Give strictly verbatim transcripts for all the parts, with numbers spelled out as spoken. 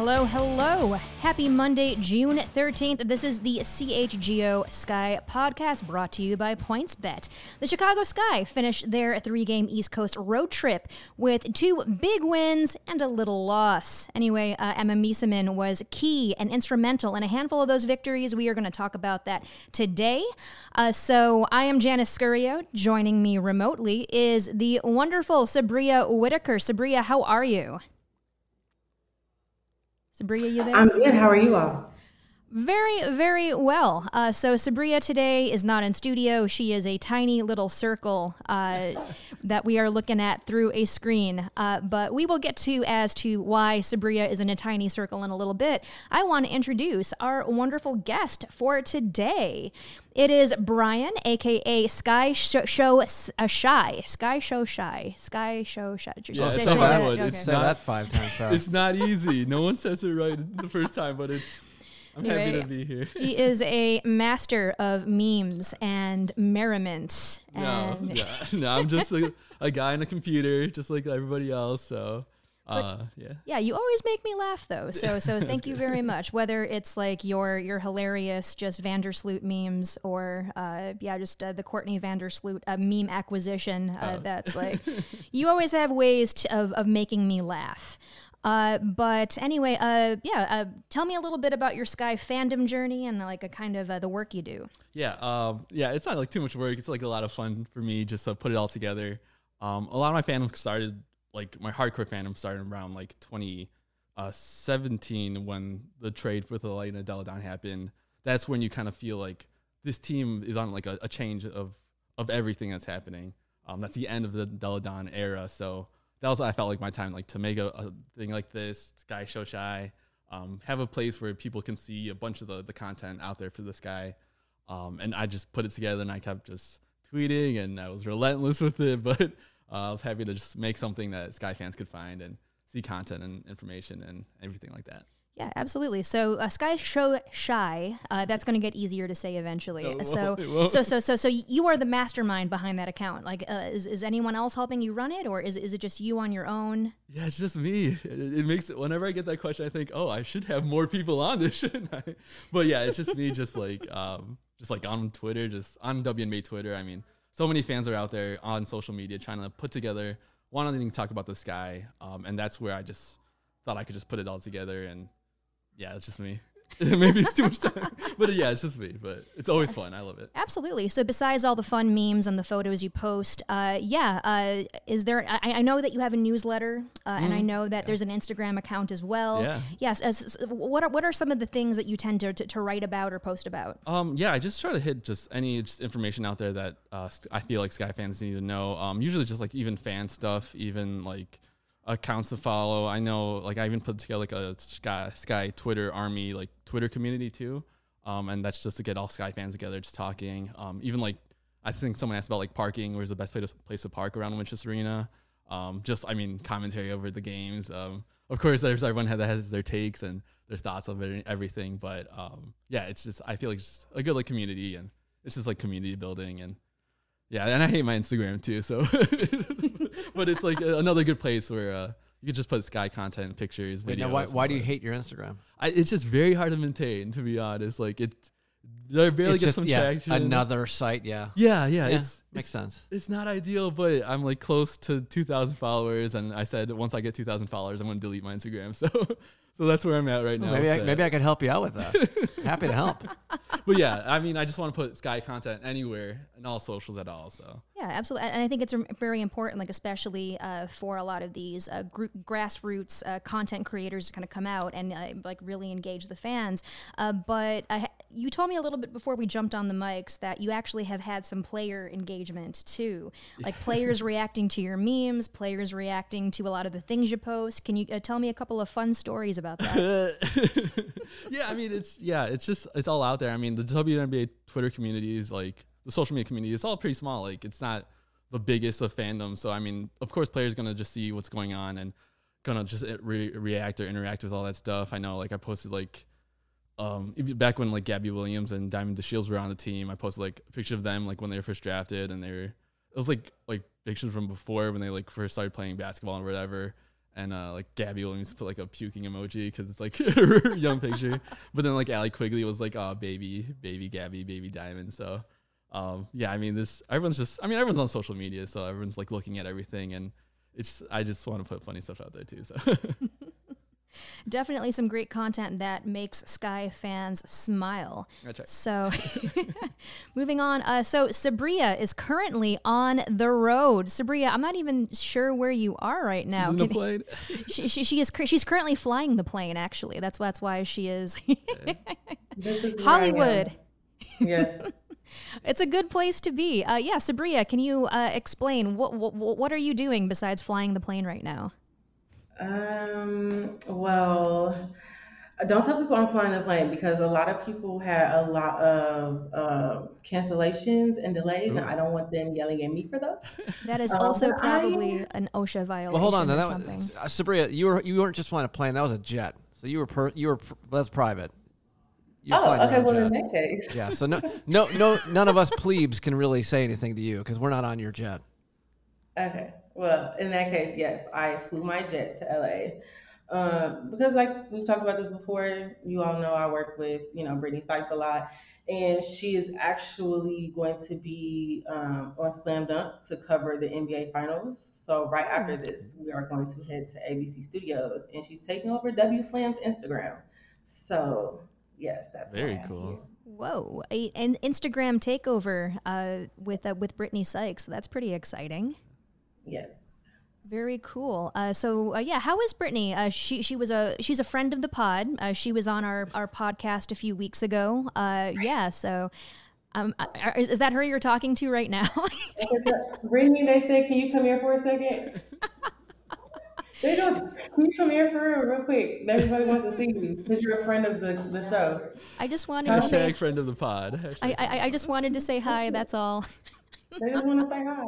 hello, hello. Happy Monday, June thirteenth. This is the C H G O Sky podcast brought to you by PointsBet. The Chicago Sky finished their three-game East Coast road trip with two big wins and a little loss. Anyway, uh, Emma Miesemann was key and instrumental in a handful of those victories. We are going to talk about that today. Uh, so I am Janice Scurio. Joining me remotely is the wonderful Sabria Whitaker. Sabria, how are you? Sabria, you there? I'm good. How are you all? Very, very well. Uh, so Sabria today is not in studio. She is a tiny little circle uh, that we are looking at through a screen. Uh, but we will get to as to why Sabria is in a tiny circle in a little bit. I want to introduce our wonderful guest for today. It is Brian, a k a. Sky Show, show uh, Shy. Sky Show Shy. Sky Show Shy. Yeah, say, it's say not, that. okay. It's not, that five times fast. It's not easy. No one says it right the first time, but it's. I'm Anyway, happy to be here. He is a master of memes and merriment. No, And yeah, no, I'm just a, a guy on a computer, just like everybody else. So, uh, yeah. yeah, you always make me laugh though. So so thank you good. very much. Whether it's like your your hilarious just Vandersloot memes or uh, yeah, just uh, the Courtney Vandersloot uh, meme acquisition. Uh, Oh. That's like you always have ways to, of of making me laugh. Uh, but anyway, uh, yeah, uh, tell me a little bit about your Sky fandom journey and like a kind of uh, the work you do. Yeah, um, yeah, it's not like too much work. It's like a lot of fun for me just to put it all together. Um, a lot of my fandom started, like my hardcore fandom started around like twenty seventeen when the trade with Elena Delle Donne happened. That's when you kind of feel like this team is on like a, a change of of everything that's happening. Um, that's the end of the Delle Donne era, so. That was, I felt like my time, like to make a, a thing like this, Sky Show Shy, um, have a place where people can see a bunch of the, the content out there for the Sky. Um, and I just put it together and I kept just tweeting and I was relentless with it. But uh, I was happy to just make something that Sky fans could find and see content and information and everything like that. Yeah, absolutely. So uh, Sky Show Shy, uh, that's going to get easier to say eventually. No, it so, won't, it won't. so, so, so, so you are the mastermind behind that account. Like, uh, is is anyone else helping you run it, or is is it just you on your own? Yeah, it's just me. It, it makes it, whenever I get that question, I think, oh, I should have more people on this, shouldn't I? But yeah, it's just me, just like, um, just like on Twitter, just on W N B A Twitter. I mean, so many fans are out there on social media trying to put together, wanting to talk about the Sky, um, and that's where I just thought I could just put it all together and. Yeah, it's just me. Maybe it's too much time. But yeah, it's just me. But it's always fun. I love it. Absolutely. So besides all the fun memes and the photos you post, uh, yeah, uh, is there, I, I know that you have a newsletter, uh, mm, and I know that yeah. there's an Instagram account as well. Yeah. Yes. As, what, are, what are some of the things that you tend to, to, to write about or post about? Um, yeah, I just try to hit just any just information out there that uh, I feel like Sky fans need to know. Um, usually just like even fan stuff, even like, accounts to follow. I know, like, I even put together like a Sky, Sky Twitter army, like Twitter community too. Um, and that's just to get all Sky fans together, just talking. Um, even like, I think someone asked about like parking, where's the best place to, place to park around Winchester Arena. Um, just, I mean, commentary over the games. Um, of course, there's everyone that has their takes and their thoughts of it and everything. But um, yeah, it's just, I feel like it's just a good like community and it's just like community building and yeah, and I hate my Instagram too, so but it's like another good place where uh, you could just put Sky content, pictures, Wait, videos. now why, why do you hate your Instagram? I, it's just very hard to maintain, to be honest. Like it, I barely It's get just, some yeah, traction. another site, yeah. Yeah, yeah, Yeah, it's makes it's, sense. It's not ideal, but I'm like close to two thousand followers, and I said once I get two thousand followers, I'm going to delete my Instagram. So, so that's where I'm at right Well, now. maybe I, but- maybe I could help you out with that. Happy to help. But yeah, I mean, I just want to put Sky content anywhere and all socials at all. So. Yeah, absolutely. And I think it's very important, like especially uh, for a lot of these uh, group, grassroots uh, content creators to kind of come out and uh, like really engage the fans. Uh, but I, you told me a little bit before we jumped on the mics that you actually have had some player engagement too, like players reacting to your memes, players reacting to a lot of the things you post. Can you uh, tell me a couple of fun stories about that? Yeah, I mean, it's yeah, it's just it's all out there. I mean, the W N B A Twitter community is like the social media community. It's all pretty small. Like, it's not the biggest of fandoms. So I mean, of course, players gonna just see what's going on and gonna just re- react or interact with all that stuff. I know, like I posted like um back when like Gabby Williams and Diamond DeShields were on the team. I posted like a picture of them like when they were first drafted, and they were it was like like pictures from before when they like first started playing basketball or whatever. And uh, like Gabby Williams put like a puking emoji because it's like her young picture. But then like Allie Quigley was like, oh, baby, baby Gabby, baby Diamond. So um, yeah, I mean, this everyone's just, I mean, everyone's on social media, so everyone's like looking at everything, and it's, I just want to put funny stuff out there too. So definitely some great content that makes Sky fans smile. So moving on. Uh, so Sabria is currently on the road. Sabria, I'm not even sure where you are right now. She's in the plane. she, she, she is, she's currently flying the plane, actually. That's, that's why she is Hollywood. Yes. It's a good place to be. Uh, yeah, Sabria, can you uh, explain what, what what are you doing besides flying the plane right now? Um, well, don't tell people I'm flying the plane because a lot of people had a lot of uh, cancellations and delays, Ooh. and I don't want them yelling at me for those. That is also um, probably I, an OSHA violation. Well, hold on, or that something. Was, uh, Sabria, you were you weren't just flying a plane; that was a jet. So you were per, you were that's private. You're oh, okay. Well, jet. In that case, yeah. So no, no, no, none of us plebes can really say anything to you because we're not on your jet. Okay. Well, in that case, yes, I flew my jet to L A um, because, like we've talked about this before, you all know I work with you know Brittany Sykes a lot, and she is actually going to be um, on Slam Dunk to cover the N B A Finals. So right after this, we are going to head to A B C Studios, and she's taking over W Slam's Instagram. So yes, that's very cool. Whoa, a, an Instagram takeover uh, with uh, with Brittany Sykes. So that's pretty exciting. Yes. Very cool. Uh, so uh, yeah, how is Brittany? Uh, she she was a she's a friend of the pod. Uh, she was on our, our podcast a few weeks ago. Uh, yeah. So, um, is, is that her you're talking to right now? Brittany, they said, "Can you come here for a second?" They go, "Can you come here for real, real quick? Everybody wants to see you because you're a friend of the, the show." I just wanted Hashtag to say friend of the pod. I, I I just wanted to say hi. That's all. They just want to say hi.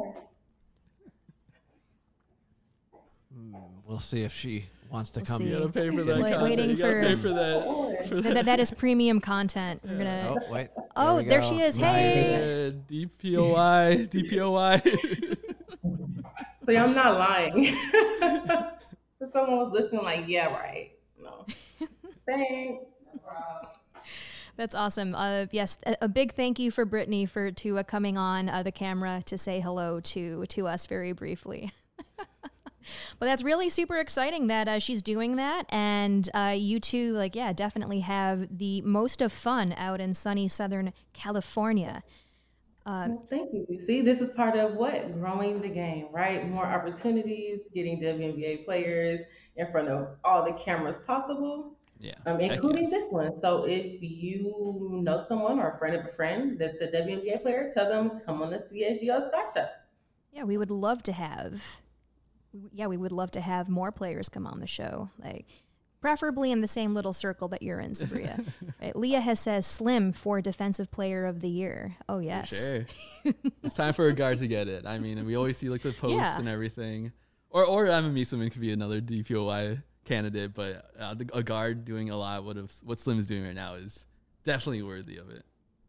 We'll see if she wants to we'll come. See. You gotta pay for that Wait, content. Waiting you gotta for, pay for that. For that. that. That is premium content. We're gonna. Oh wait. Oh, there, there she is. Nice. Hey. Uh, D P O I. D P O I. See, I'm not lying. If someone was listening, like, yeah, right. No. Thanks. That's awesome. Uh, yes, a, a big thank you for Brittany for to uh, coming on uh, the camera to say hello to to us very briefly. But that's really super exciting that uh, she's doing that, and uh, you two, like, yeah, definitely have the most of fun out in sunny Southern California. Uh, well, thank you. See, this is part of what? Growing the game, right? More opportunities, getting W N B A players in front of all the cameras possible, yeah, um, including this one. So if you know someone or a friend of a friend that's a W N B A player, tell them, come on the C H G O Sky Show. Yeah, we would love to have... Yeah, we would love to have more players come on the show, like preferably in the same little circle that you're in, Sabria. Right? Leah has says Slim for Defensive Player of the Year. Oh yes, for sure. It's time for a guard to get it. I mean, we always see like the posts yeah. and everything, or or Emma Mieselman could be another D P O I candidate, but uh, the, a guard doing a lot what of what Slim is doing right now is definitely worthy of it.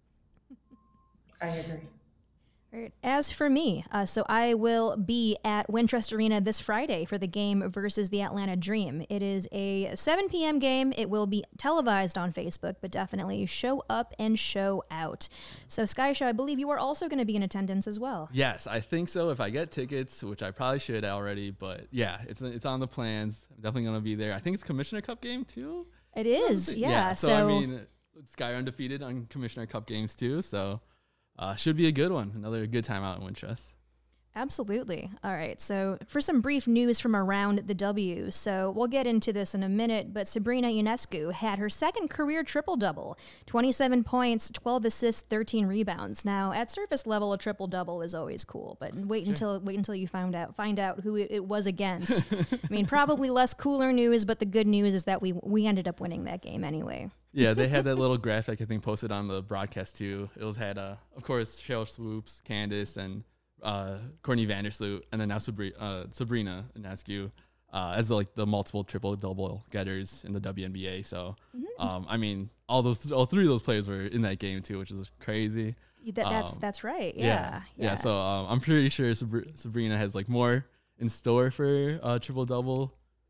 I agree. Right. As for me, uh, so I will be at Wintrust Arena this Friday for the game versus the Atlanta Dream. It is a seven p.m. game. It will be televised on Facebook, but definitely show up and show out. So, Sky Show, I believe you are also going to be in attendance as well. Yes, I think so. If I get tickets, which I probably should already, but yeah, it's it's on the plans. I'm definitely going to be there. I think it's Commissioner Cup game too. It is, yeah. yeah so, so I mean, Sky are undefeated on Commissioner Cup games too, so. Uh, should be a good one. Another good time out in Wintrust. Absolutely. All right. So for some brief news from around the W, so we'll get into this in a minute, but Sabrina Ionescu had her second career triple-double, twenty-seven points, twelve assists, thirteen rebounds. Now, at surface level, a triple-double is always cool, but wait sure. until wait until you find out find out who it, it was against. I mean, probably less cooler news, but the good news is that we we ended up winning that game anyway. Yeah, they had that little graphic, I think, posted on the broadcast, too. It was had, uh, of course, Cheryl Swoops, Candace, and uh, Courtney Vandersloot, and then now Sabri- uh, Sabrina Ionescu uh, as the, like the multiple triple-double getters in the W N B A. So, mm-hmm. um, I mean, all those, all three of those players were in that game, too, which is crazy. That, that's um, that's right, yeah. Yeah, yeah. yeah so um, I'm pretty sure Sabri- Sabrina has, like, more in store for uh, triple-double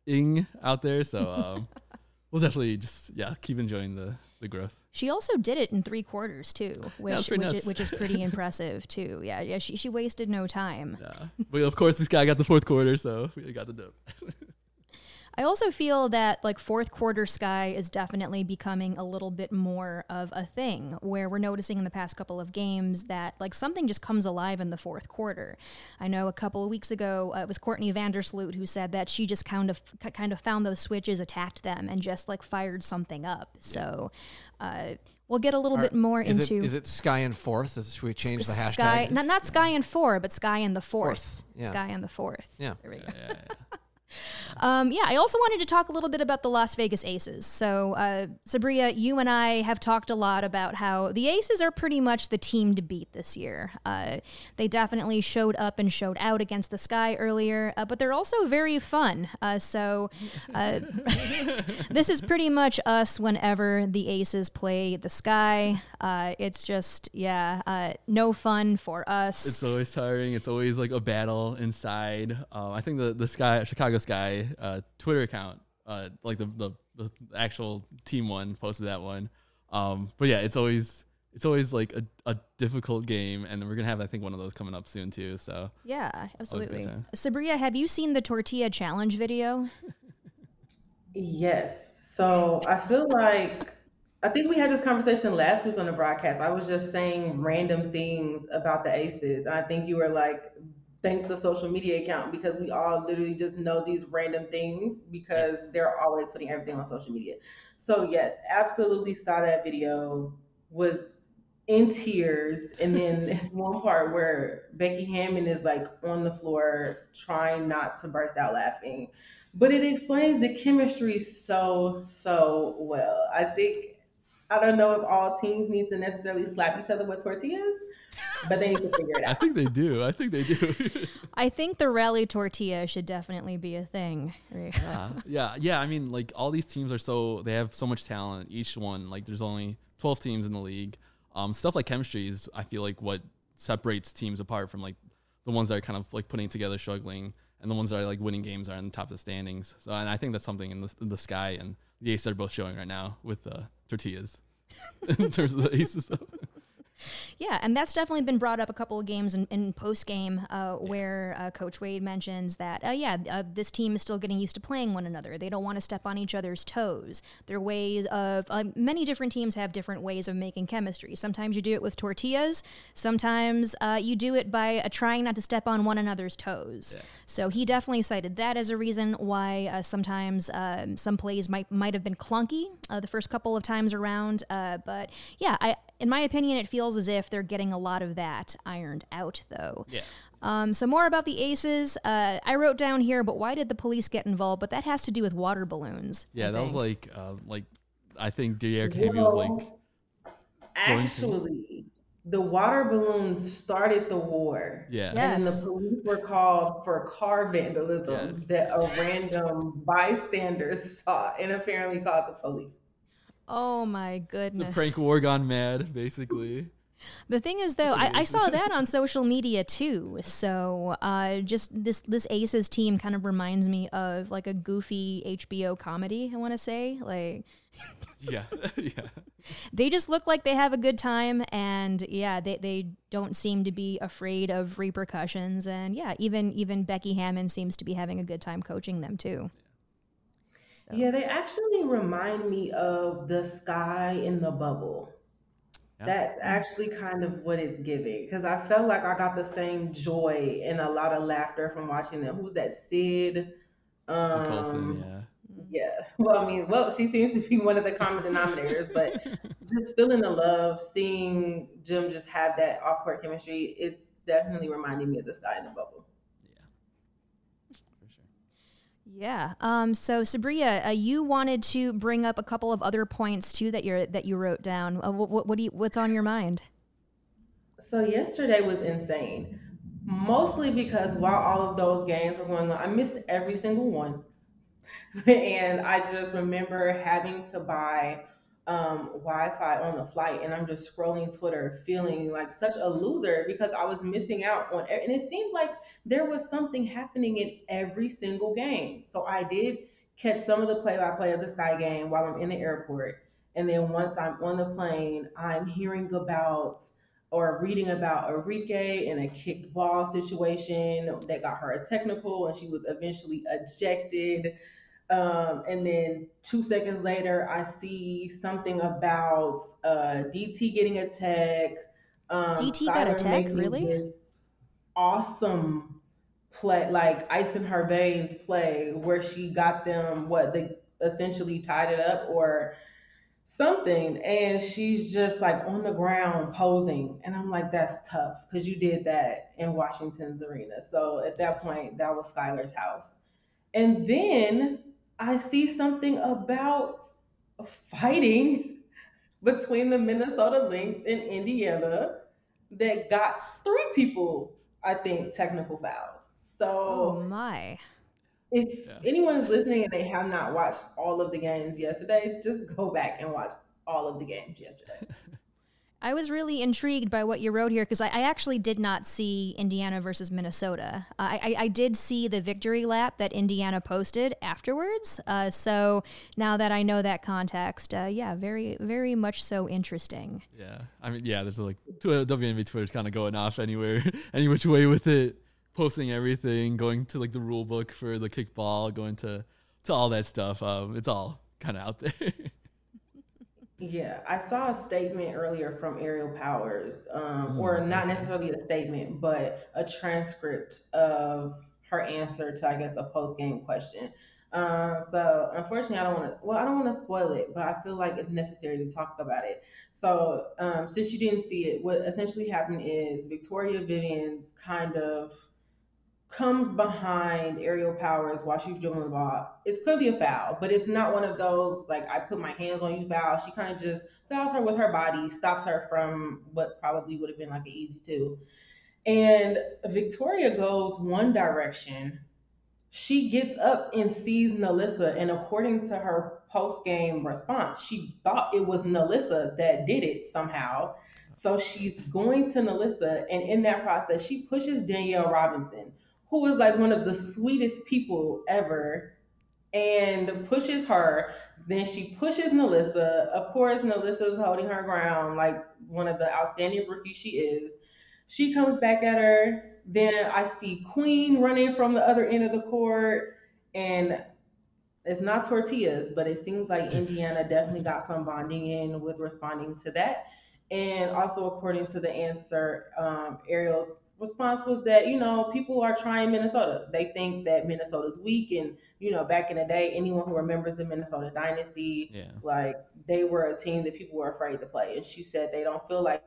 ing out there. So um, we'll definitely just yeah keep enjoying the the growth. She also did it in three quarters too, which that's which, pretty is, nuts. which is pretty impressive too. Yeah, yeah. She she wasted no time. Yeah, but of course this guy got the fourth quarter, so we got the dub. I also feel that like fourth quarter Sky is definitely becoming a little bit more of a thing, where we're noticing in the past couple of games that like something just comes alive in the fourth quarter. I know a couple of weeks ago uh, it was Courtney Vandersloot who said that she just kind of kind of found those switches, attacked them, and just like fired something up. So uh, we'll get a little Are- bit more is into It, is it Sky and Fourth? Is, should we change the hashtag? Sky, not not Sky and four, but Sky and the fourth. Fourth, yeah. Sky and the fourth. Yeah. There we go. Yeah, yeah, yeah. Um, yeah, I also wanted to talk a little bit about the Las Vegas Aces. So, uh, Sabria, you and I have talked a lot about how the Aces are pretty much the team to beat this year. Uh, they definitely showed up and showed out against the Sky earlier, uh, but they're also very fun. Uh, so, uh, this is pretty much us whenever the Aces play the Sky. Uh, it's just, yeah, uh, no fun for us. It's always tiring. It's always like a battle inside. Um, I think the the Sky Chicago Sky uh, Twitter account, uh, like the, the the actual team one, posted that one. Um, but yeah, it's always it's always like a, a difficult game, and we're gonna have I think one of those coming up soon too. So Yeah, absolutely. time. Sabria, have you seen the tortilla challenge video? Yes. So I feel like I think we had this conversation last week on the broadcast. I was just saying random things about the Aces, and I think you were like, thank the social media account, because we all literally just know these random things because they're always putting everything on social media. So yes, absolutely saw that video, was in tears. And then there's one part where Becky Hammon is like on the floor trying not to burst out laughing. But it explains the chemistry so, so well. I think, I don't know if all teams need to necessarily slap each other with tortillas, but they need to figure it I out. think they do. I think they do. I think the rally tortilla should definitely be a thing. yeah, yeah, yeah. I mean, like all these teams are so they have so much talent. Each one, like, there's only twelve teams in the league. Um, stuff like chemistry is, I feel like, what separates teams apart from like the ones that are kind of like putting together, struggling, and the ones that are like winning games are on the top of the standings. So, and I think that's something in the, in the Sky and the Aces are both showing right now with uh, tortillas in terms of the Aces. Though. Yeah, and that's definitely been brought up a couple of games in, in post game uh, where uh, Coach Wade mentions that, uh, yeah, uh, this team is still getting used to playing one another. They don't want to step on each other's toes. Their ways of, uh, many different teams have different ways of making chemistry. Sometimes you do it with tortillas. Sometimes uh, you do it by uh, trying not to step on one another's toes. Yeah. So he definitely cited that as a reason why uh, sometimes um, some plays might might have been clunky uh, the first couple of times around. Uh, but yeah, I, in my opinion, it feels as if they're getting a lot of that ironed out, though. Yeah. Um, so more about the Aces. Uh, I wrote down here, but why did the police get involved? But that has to do with water balloons. Yeah, I that was think. like, uh, like I think Derrick Henry was like, Well, actually, the water balloons started the war. yeah, Yeah. And then Yes. the police were called for car vandalism Yes. that a random bystander saw and apparently called the police. Oh my it's a goodness. prank war gone mad, basically. The thing is, though, I, I saw that on social media too. So, uh, just this this Aces team kind of reminds me of like a goofy H B O comedy. I want to say, like, Yeah, yeah. they just look like they have a good time, and yeah, they, they don't seem to be afraid of repercussions. And yeah, even even Becky Hammon seems to be having a good time coaching them too. So. Yeah, they actually remind me of the Sky in the Bubble. Yeah. That's actually kind of what it's giving, because I felt like I got the same joy and a lot of laughter from watching them. Who's that? Sid. Sid Colson, Um, yeah. yeah. Well, I mean, well, she seems to be one of the common denominators, but just feeling the love, seeing Jim just have that off-court chemistry, it's definitely reminding me of the Sky in the Bubble. Yeah, for sure. Yeah. Um. So Sabria, uh, you wanted to bring up a couple of other points too that you're that you wrote down. Uh, what what do you what's on your mind? So yesterday was insane, mostly because while all of those games were going on, I missed every single one. And I just remember having to buy um, Wi-Fi on the flight, and I'm just scrolling Twitter, feeling like such a loser because I was missing out on. And it seemed like there was something happening in every single game. So I did catch some of the play-by-play of the Sky game while I'm in the airport, and then once I'm on the plane, I'm hearing about or reading about Enrique in a kicked ball situation that got her a technical, and she was eventually ejected. Um, and then two seconds later, I see something about uh, D T getting a tech. Um, D T got a Skylar tech, making really? this awesome play, like ice in her veins play, where she got them what they essentially tied it up or something, and she's just like on the ground posing, and I'm like, that's tough because you did that in Washington's arena. So at that point, that was Skylar's house. And then I see something about fighting between the Minnesota Lynx and Indiana that got three people, I think, technical fouls. Oh So my. if Yeah. anyone is listening and they have not watched all of the games yesterday, just go back and watch all of the games yesterday. I was really intrigued by what you wrote here because I, I actually did not see Indiana versus Minnesota. Uh, I, I, I did see the victory lap that Indiana posted afterwards. Uh, so now that I know that context, uh, yeah, very, very much so interesting. Yeah, I mean, yeah, there's like Twitter, W N B A Twitter's kind of going off anywhere, any which way with it, posting everything, going to like the rule book for the kickball, going to to all that stuff. Um, it's all kind of out there. Yeah, I saw a statement earlier from Ariel Powers, um, or not necessarily a statement, but a transcript of her answer to, I guess, a post game question. Um, so unfortunately, I don't want to. Well, I don't want to spoil it, but I feel like it's necessary to talk about it. So um, since you didn't see it, what essentially happened is Victoria Vivians kind of comes behind Ariel Powers while she's dribbling the ball. It's clearly a foul, but it's not one of those like I put my hands on you foul. She kind of just fouls her with her body, stops her from what probably would have been like an easy two. And Victoria goes one direction. She gets up and sees Nalissa, and according to her post game response, she thought it was Nalissa that did it somehow. So she's going to Nalissa, and in that process, she pushes Danielle Robinson, who is like one of the sweetest people ever, and pushes her. Then she pushes Nalissa. Of course, Nalissa's holding her ground like one of the outstanding rookies she is. She comes back at her. Then I see Queen running from the other end of the court, and it's not tortillas, but it seems like Indiana definitely got some bonding in with responding to that. And also, according to the answer, um, Ariel's response was that, you know, people are trying Minnesota. They think that Minnesota's weak. And, you know, back in the day, anyone who remembers the Minnesota dynasty, Yeah. like they were a team that people were afraid to play. And she said they don't feel like.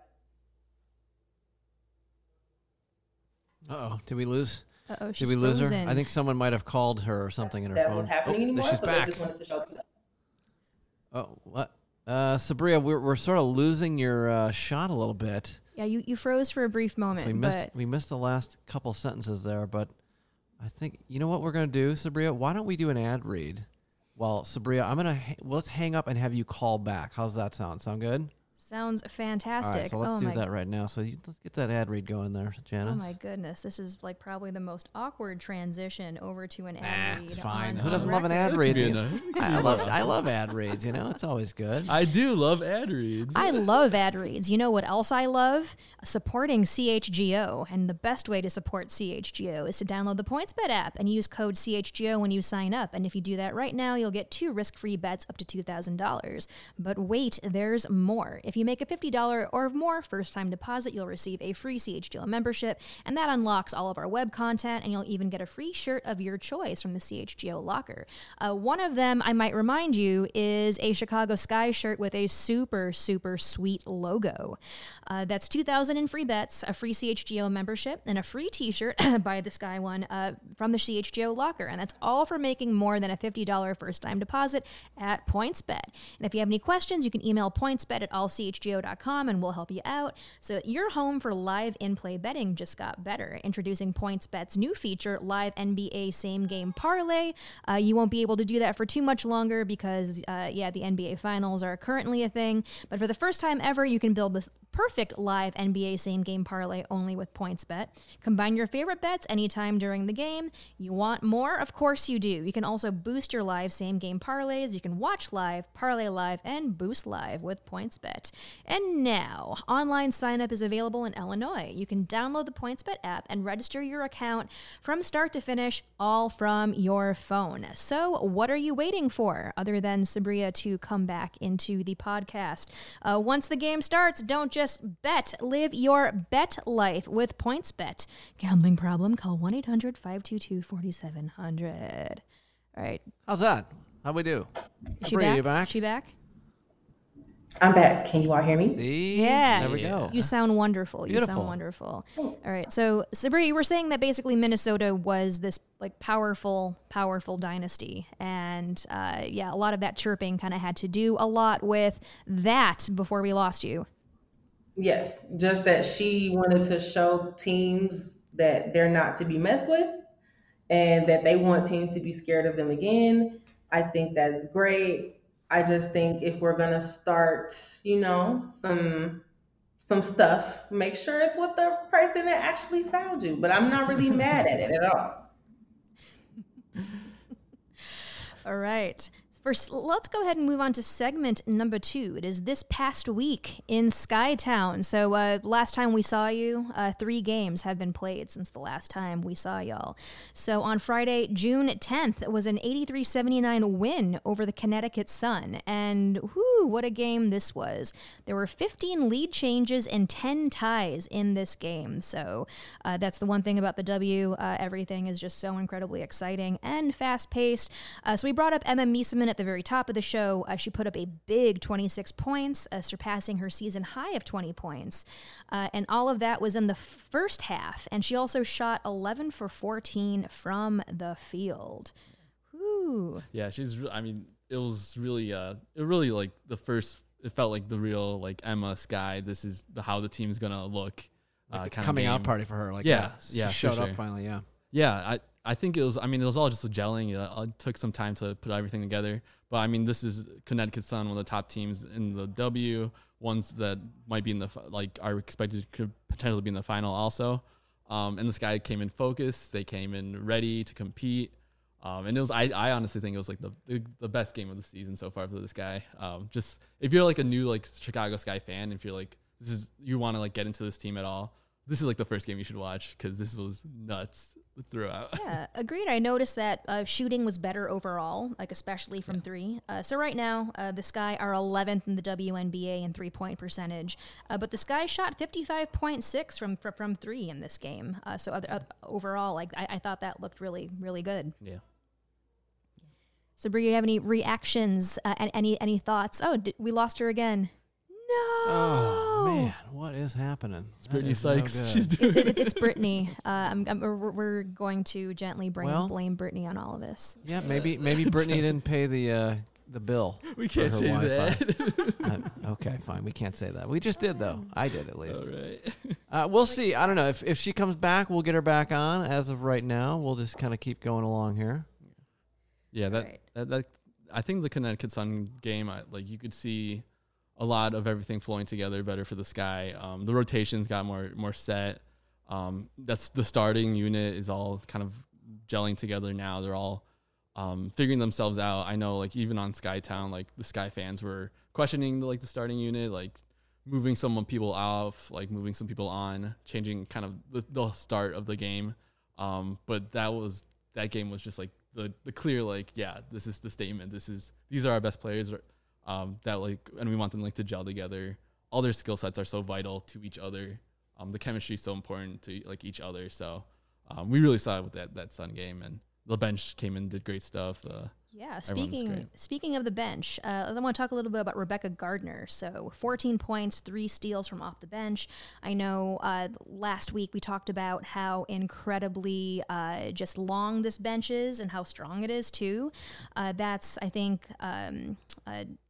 Uh-oh, did we lose? Uh-oh, Did she's we lose frozen. her? I think someone might have called her or something in her That phone. was happening oh, anymore. She's So back. they just wanted to show people. Oh, what? Uh, Sabria, we're we're sort of losing your uh, shot a little bit. Yeah, you, you froze for a brief So moment, we missed but we missed the last couple sentences there, but I think you know what we're gonna do, Sabria. Why don't we do an ad read? Well, Sabria, I'm gonna ha- well, let's hang up and have you call back. How's that sound? Sound good? sounds fantastic. All right, so let's oh do my that right now. So you, let's get that ad read going there, Janice. Oh my goodness, this is like probably the most awkward transition over to an ad Ah, read. it's fine. on- Who on doesn't love an record. ad read? Could be enough. I love I love ad reads. You know, it's always good. I do love ad reads. I love ad reads. You know what else I love? Supporting C H G O. And the best way to support C H G O is to download the PointsBet app and use code C H G O when you sign up. And if you do that right now, you'll get two risk-free bets up to two thousand dollars. But wait, there's more. If you make a fifty dollars or more first-time deposit, you'll receive a free C H G O membership, and that unlocks all of our web content, and you'll even get a free shirt of your choice from the C H G O locker. Uh, one of them, I might remind you, is a Chicago Sky shirt with a super, super sweet logo. Uh, that's two thousand in free bets, a free C H G O membership, and a free t-shirt by the Sky one uh, from the C H G O locker, and that's all for making more than a fifty dollars first-time deposit at PointsBet. And if you have any questions, you can email pointsbet at all c c h g o dot com and we'll help you out. So your home for live in-play betting just got better. Introducing PointsBet's new feature, Live N B A Same Game Parlay. Uh, you won't be able to do that for too much longer because, uh, yeah, the N B A Finals are currently a thing. But for the first time ever, you can build the perfect live N B A same game parlay only with PointsBet. Combine your favorite bets anytime during the game. You want more? Of course you do. You can also boost your live same game parlays. You can watch live, parlay live, and boost live with PointsBet. And now, online sign up is available in Illinois. You can download the PointsBet app and register your account from start to finish, all from your phone. So what are you waiting for other than Sabria to come back into the podcast? Uh, once the game starts, don't just bet. Live your bet life with PointsBet. Gambling problem? Call one eight hundred five two two four seven zero zero. All right. How's that? How'd we do? Is she Sabria, back? you back? She back? I'm back. Can you all hear me? See? Yeah. There we go. You sound wonderful. You Beautiful. sound wonderful. All right. So, Sabri, you were saying that basically Minnesota was this like powerful, powerful dynasty. And uh, yeah, a lot of that chirping kind of had to do a lot with that before we lost you. Yes, just that she wanted to show teams that they're not to be messed with and that they want teams to be scared of them again. I think that's great. I just think if we're going to start, you know, some some stuff, make sure it's with the person that actually fouled you. But I'm not really mad at it at all. All right. First, let's go ahead and move on to segment number two. It is this past week in Skytown. So uh, last time we saw you, uh, three games have been played since the last time we saw y'all. So on Friday, June tenth, it was an eighty-three seventy-nine win over the Connecticut Sun. And whoo, what a game this was. There were fifteen lead changes and ten ties in this game. So uh, that's the one thing about the W. Uh, everything is just so incredibly exciting and fast-paced. Uh, so we brought up Emma Miesemann at the very top of the show. Uh, she put up a big twenty-six points, uh, surpassing her season high of twenty points. Uh, and all of that was in the first half. And she also shot eleven for fourteen from the field. Whew. Yeah, she's. re- I mean, it was really, uh, it really like the first. It felt like the real like Emma Sky. This is the, how the team's gonna look. Like Uh, the kind coming of out party for her. Like Yeah, she yeah, for showed up sure. finally. Yeah. Yeah, I, I think it was, I mean, it was all just a gelling. It, it took some time to put everything together. But, I mean, this is Connecticut Sun, one of the top teams in the W, ones that might be in the, fi- like, are expected to potentially be in the final also. Um, and this guy came in focused. They came in ready to compete. Um, and it was, I, I honestly think it was, like, the, the the best game of the season so far for this guy. Um, just, if you're, like, a new, like, Chicago Sky fan, if you're, like, this is, you want to, like, get into this team at all, this is, like, the first game you should watch because this was nuts throughout. Yeah, agreed. I noticed that uh, shooting was better overall, like especially from yeah. three. Uh, so right now, uh, the Sky are eleventh in the W N B A in three-point percentage, uh, but the Sky shot fifty-five point six from from, from three in this game. Uh, so other, uh, overall, like I, I thought that looked really, really good. Yeah. So, Brie, do you have any reactions uh, and any any thoughts? Oh, did, we lost her again. No. Oh man, what is happening? It's Brittany Sykes. No She's doing it, it, it's Brittany. Uh, I'm, I'm, we're, we're going to gently bring, well, blame Brittany on all of this. Yeah, maybe maybe Brittany didn't pay the uh, the bill. We can't say Wi-Fi. that. uh, okay, fine. We can't say that. We just did though. I did at least. All right. Uh, we'll see. I don't know if if she comes back, we'll get her back on. As of right now, we'll just kind of keep going along here. Yeah, that, right. that that I think the Connecticut Sun game, I, like you could see a lot of everything flowing together better for the Sky. Um, the rotations got more more set. Um, that's the starting unit is all kind of gelling together now. They're all um, figuring themselves out. I know, like even on Skytown, like the Sky fans were questioning the, like the starting unit, like moving some people off, like moving some people on, changing kind of the, the start of the game. Um, but that was that game was just like the the clear like yeah, this is the statement. This is these are our best players. Um, that like, and we want them like to gel together. All their skill sets are so vital to each other. Um, the chemistry is so important to like each other. So, um, we really saw it with that that Sun game, and the bench came in, did great stuff. The yeah, speaking speaking of the bench, uh, I want to talk a little bit about Rebecca Gardner. So, fourteen points, three steals from off the bench. I know uh, last week we talked about how incredibly uh, just long this bench is and how strong it is too. Uh, that's I think. Um, uh,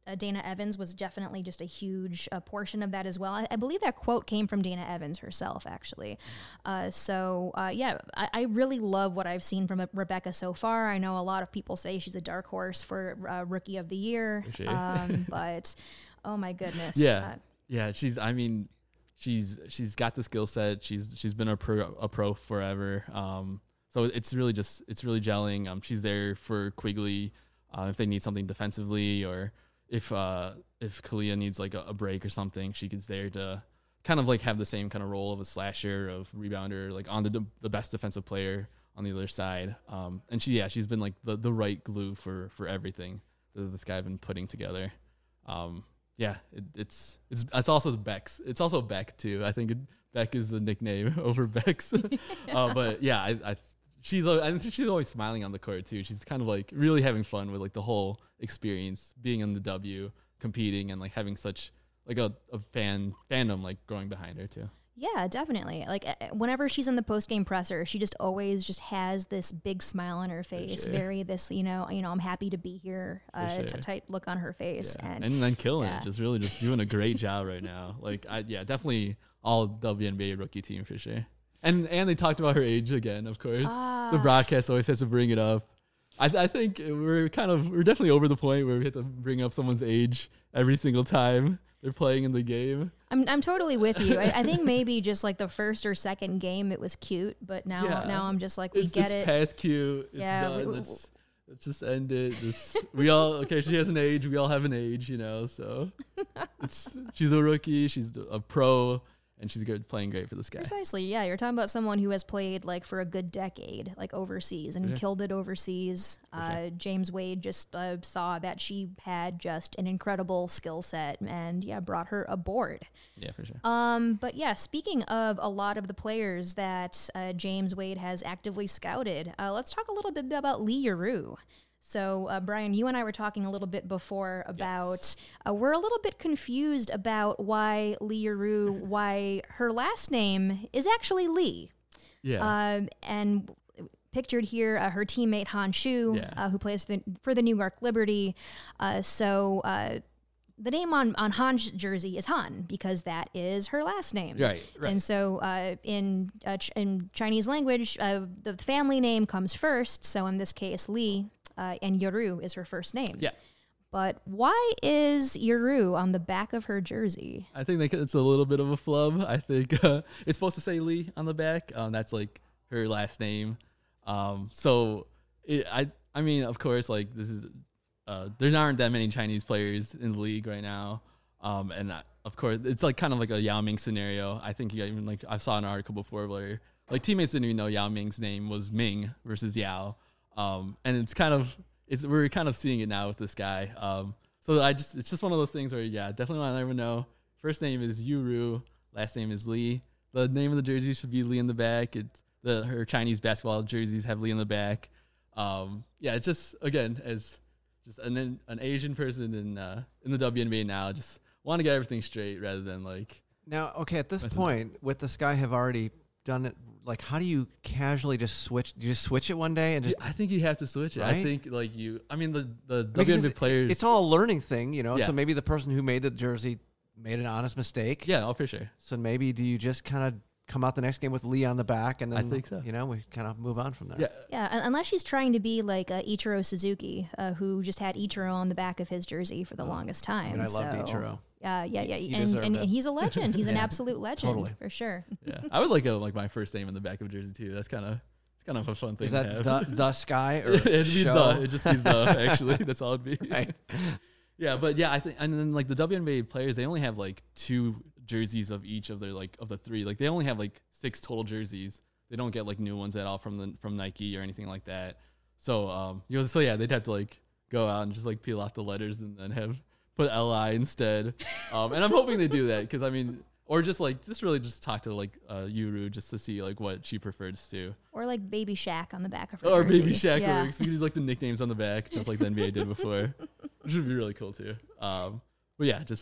uh, Dana Evans was definitely just a huge uh, portion of that as well. I, I believe that quote came from Dana Evans herself, actually. Uh, so, uh, yeah, I, I really love what I've seen from Rebecca so far. I know a lot of people say she's a dark horse for uh, Rookie of the Year, sure. um, but oh my goodness. Yeah, Uh, yeah. She's. I mean, she's she's got the skill set. She's she's been a pro a pro forever. Um, so it's really just it's really gelling. Um, she's there for Quigley uh, if they need something defensively, or if uh if Kalia needs like a, a break or something, she gets there to kind of like have the same kind of role of a slasher, of rebounder, like on the the best defensive player on the other side. Um, and she yeah she's been like the the right glue for for everything that this guy been putting together. Um, yeah, it, it's it's it's also Bex. It's also Beck too. I think it, Beck is the nickname over Bex. uh, but yeah, I, I she's I think she's always smiling on the court too. She's kind of like really having fun with like the whole experience, being in the W, competing, and like having such like a, a fan fandom like growing behind her too. Yeah, definitely. Like uh, whenever she's in the post game presser, she just always just has this big smile on her face. sure. Very this, you know, you know, I'm happy to be here. Uh, sure. t- tight look on her face, Yeah. and, and then killing yeah. it, just really just doing a great job right now. Like I yeah, definitely all W N B A rookie team for sure. And and they talked about her age again, of course. Ah. The broadcast always has to bring it up. I, th- I think we're kind of we're definitely over the point where we have to bring up someone's age every single time they're playing in the game. I'm I'm totally with you. I, I think maybe just like the first or second game it was cute, but now Yeah. now I'm just like we It's, get it's it. past cute. It's Yeah, done. we- let's, let's just end it. This we all okay. She has an age. We all have an age, you know. So it's she's a rookie. She's a pro. And she's good, playing great for this guy. Precisely, yeah. You're talking about someone who has played like for a good decade, like overseas, and sure. killed it overseas. For Uh, sure. James Wade just uh, saw that she had just an incredible skill set, and yeah, brought her aboard. Yeah, for sure. Um, but yeah, speaking of a lot of the players that uh, James Wade has actively scouted, uh, let's talk a little bit about Lee Yaroo. So, uh, Brian, you and I were talking a little bit before about Yes. uh, we're a little bit confused about why Lee Yaroo, why her last name is actually Lee. Yeah. Um, and pictured here, uh, her teammate Han Shu, Yeah. uh, who plays for the, for the New York Liberty. Uh, so uh, the name on, on Han's jersey is Han because that is her last name. right, right. And so uh, in uh, ch- in Chinese language, uh, the family name comes first. So in this case, Li, uh, and Yaroo is her first name. yeah. But why is Yaroo on the back of her jersey? I think that it's a little bit of a flub. I think uh, it's supposed to say Lee on the back. Um, that's like her last name. Um, so it, I, I mean, of course, like this is, uh, there aren't that many Chinese players in the league right now. Um, and I, of course, it's like kind of like a Yao Ming scenario. I think you even like I saw an article before where like teammates didn't even know Yao Ming's name was Ming versus Yao. Um, and it's kind of it's we're kind of seeing it now with this guy. Um, so I just it's just one of those things where yeah, definitely want to let everyone know. First name is Yuru, last name is Lee. The name of the jersey should be Lee in the back. It's the her Chinese basketball jerseys have Lee in the back. Um, yeah, it's just again as just an an Asian person in uh, in the W N B A now, just want to get everything straight rather than like Now, okay, at this Listen. point, with this guy have already done it, like, how do you casually just switch? Do you just switch it one day and just? I think you have to switch it. I Right? think like you. I mean the the Because W N B A it's, players. it's all a learning thing, you know. Yeah. So maybe the person who made the jersey made an honest mistake. yeah, oh, for sure. So maybe do you just kind of come out the next game with Lee on the back, and then I think so. You know, we kind of move on from there. Yeah, Yeah, un- unless she's trying to be like uh, Ichiro Suzuki, uh, who just had Ichiro on the back of his jersey for the longest time. I mean, I loved so, Ichiro. Yeah, yeah, yeah, He and, deserved and, it. and he's a legend. He's an Yeah, absolute legend totally. for sure. yeah. I would like a like my first name in the back of a jersey too. That's kind of it's kind of a fun thing. Is to that have. the the sky or it'd be show? the it'd just be the actually that's all it'd be. Right. Yeah, but yeah, I think and then like the W N B A players, they only have like two jerseys of each of their like of the three. Like they only have like six total jerseys. They don't get like new ones at all from the from Nike or anything like that. So um, you know, so yeah, they'd have to like go out and just like peel off the letters and then have put L I instead. Um, and I'm hoping they do that because I mean, or just like just really just talk to like uh, Yuru just to see like what she prefers to. Or like Baby Shaq on the back of her Or jersey. Baby Shaq yeah. works. We could do like the nicknames on the back, just like the N B A did before, which would be really cool too. Um, but yeah, just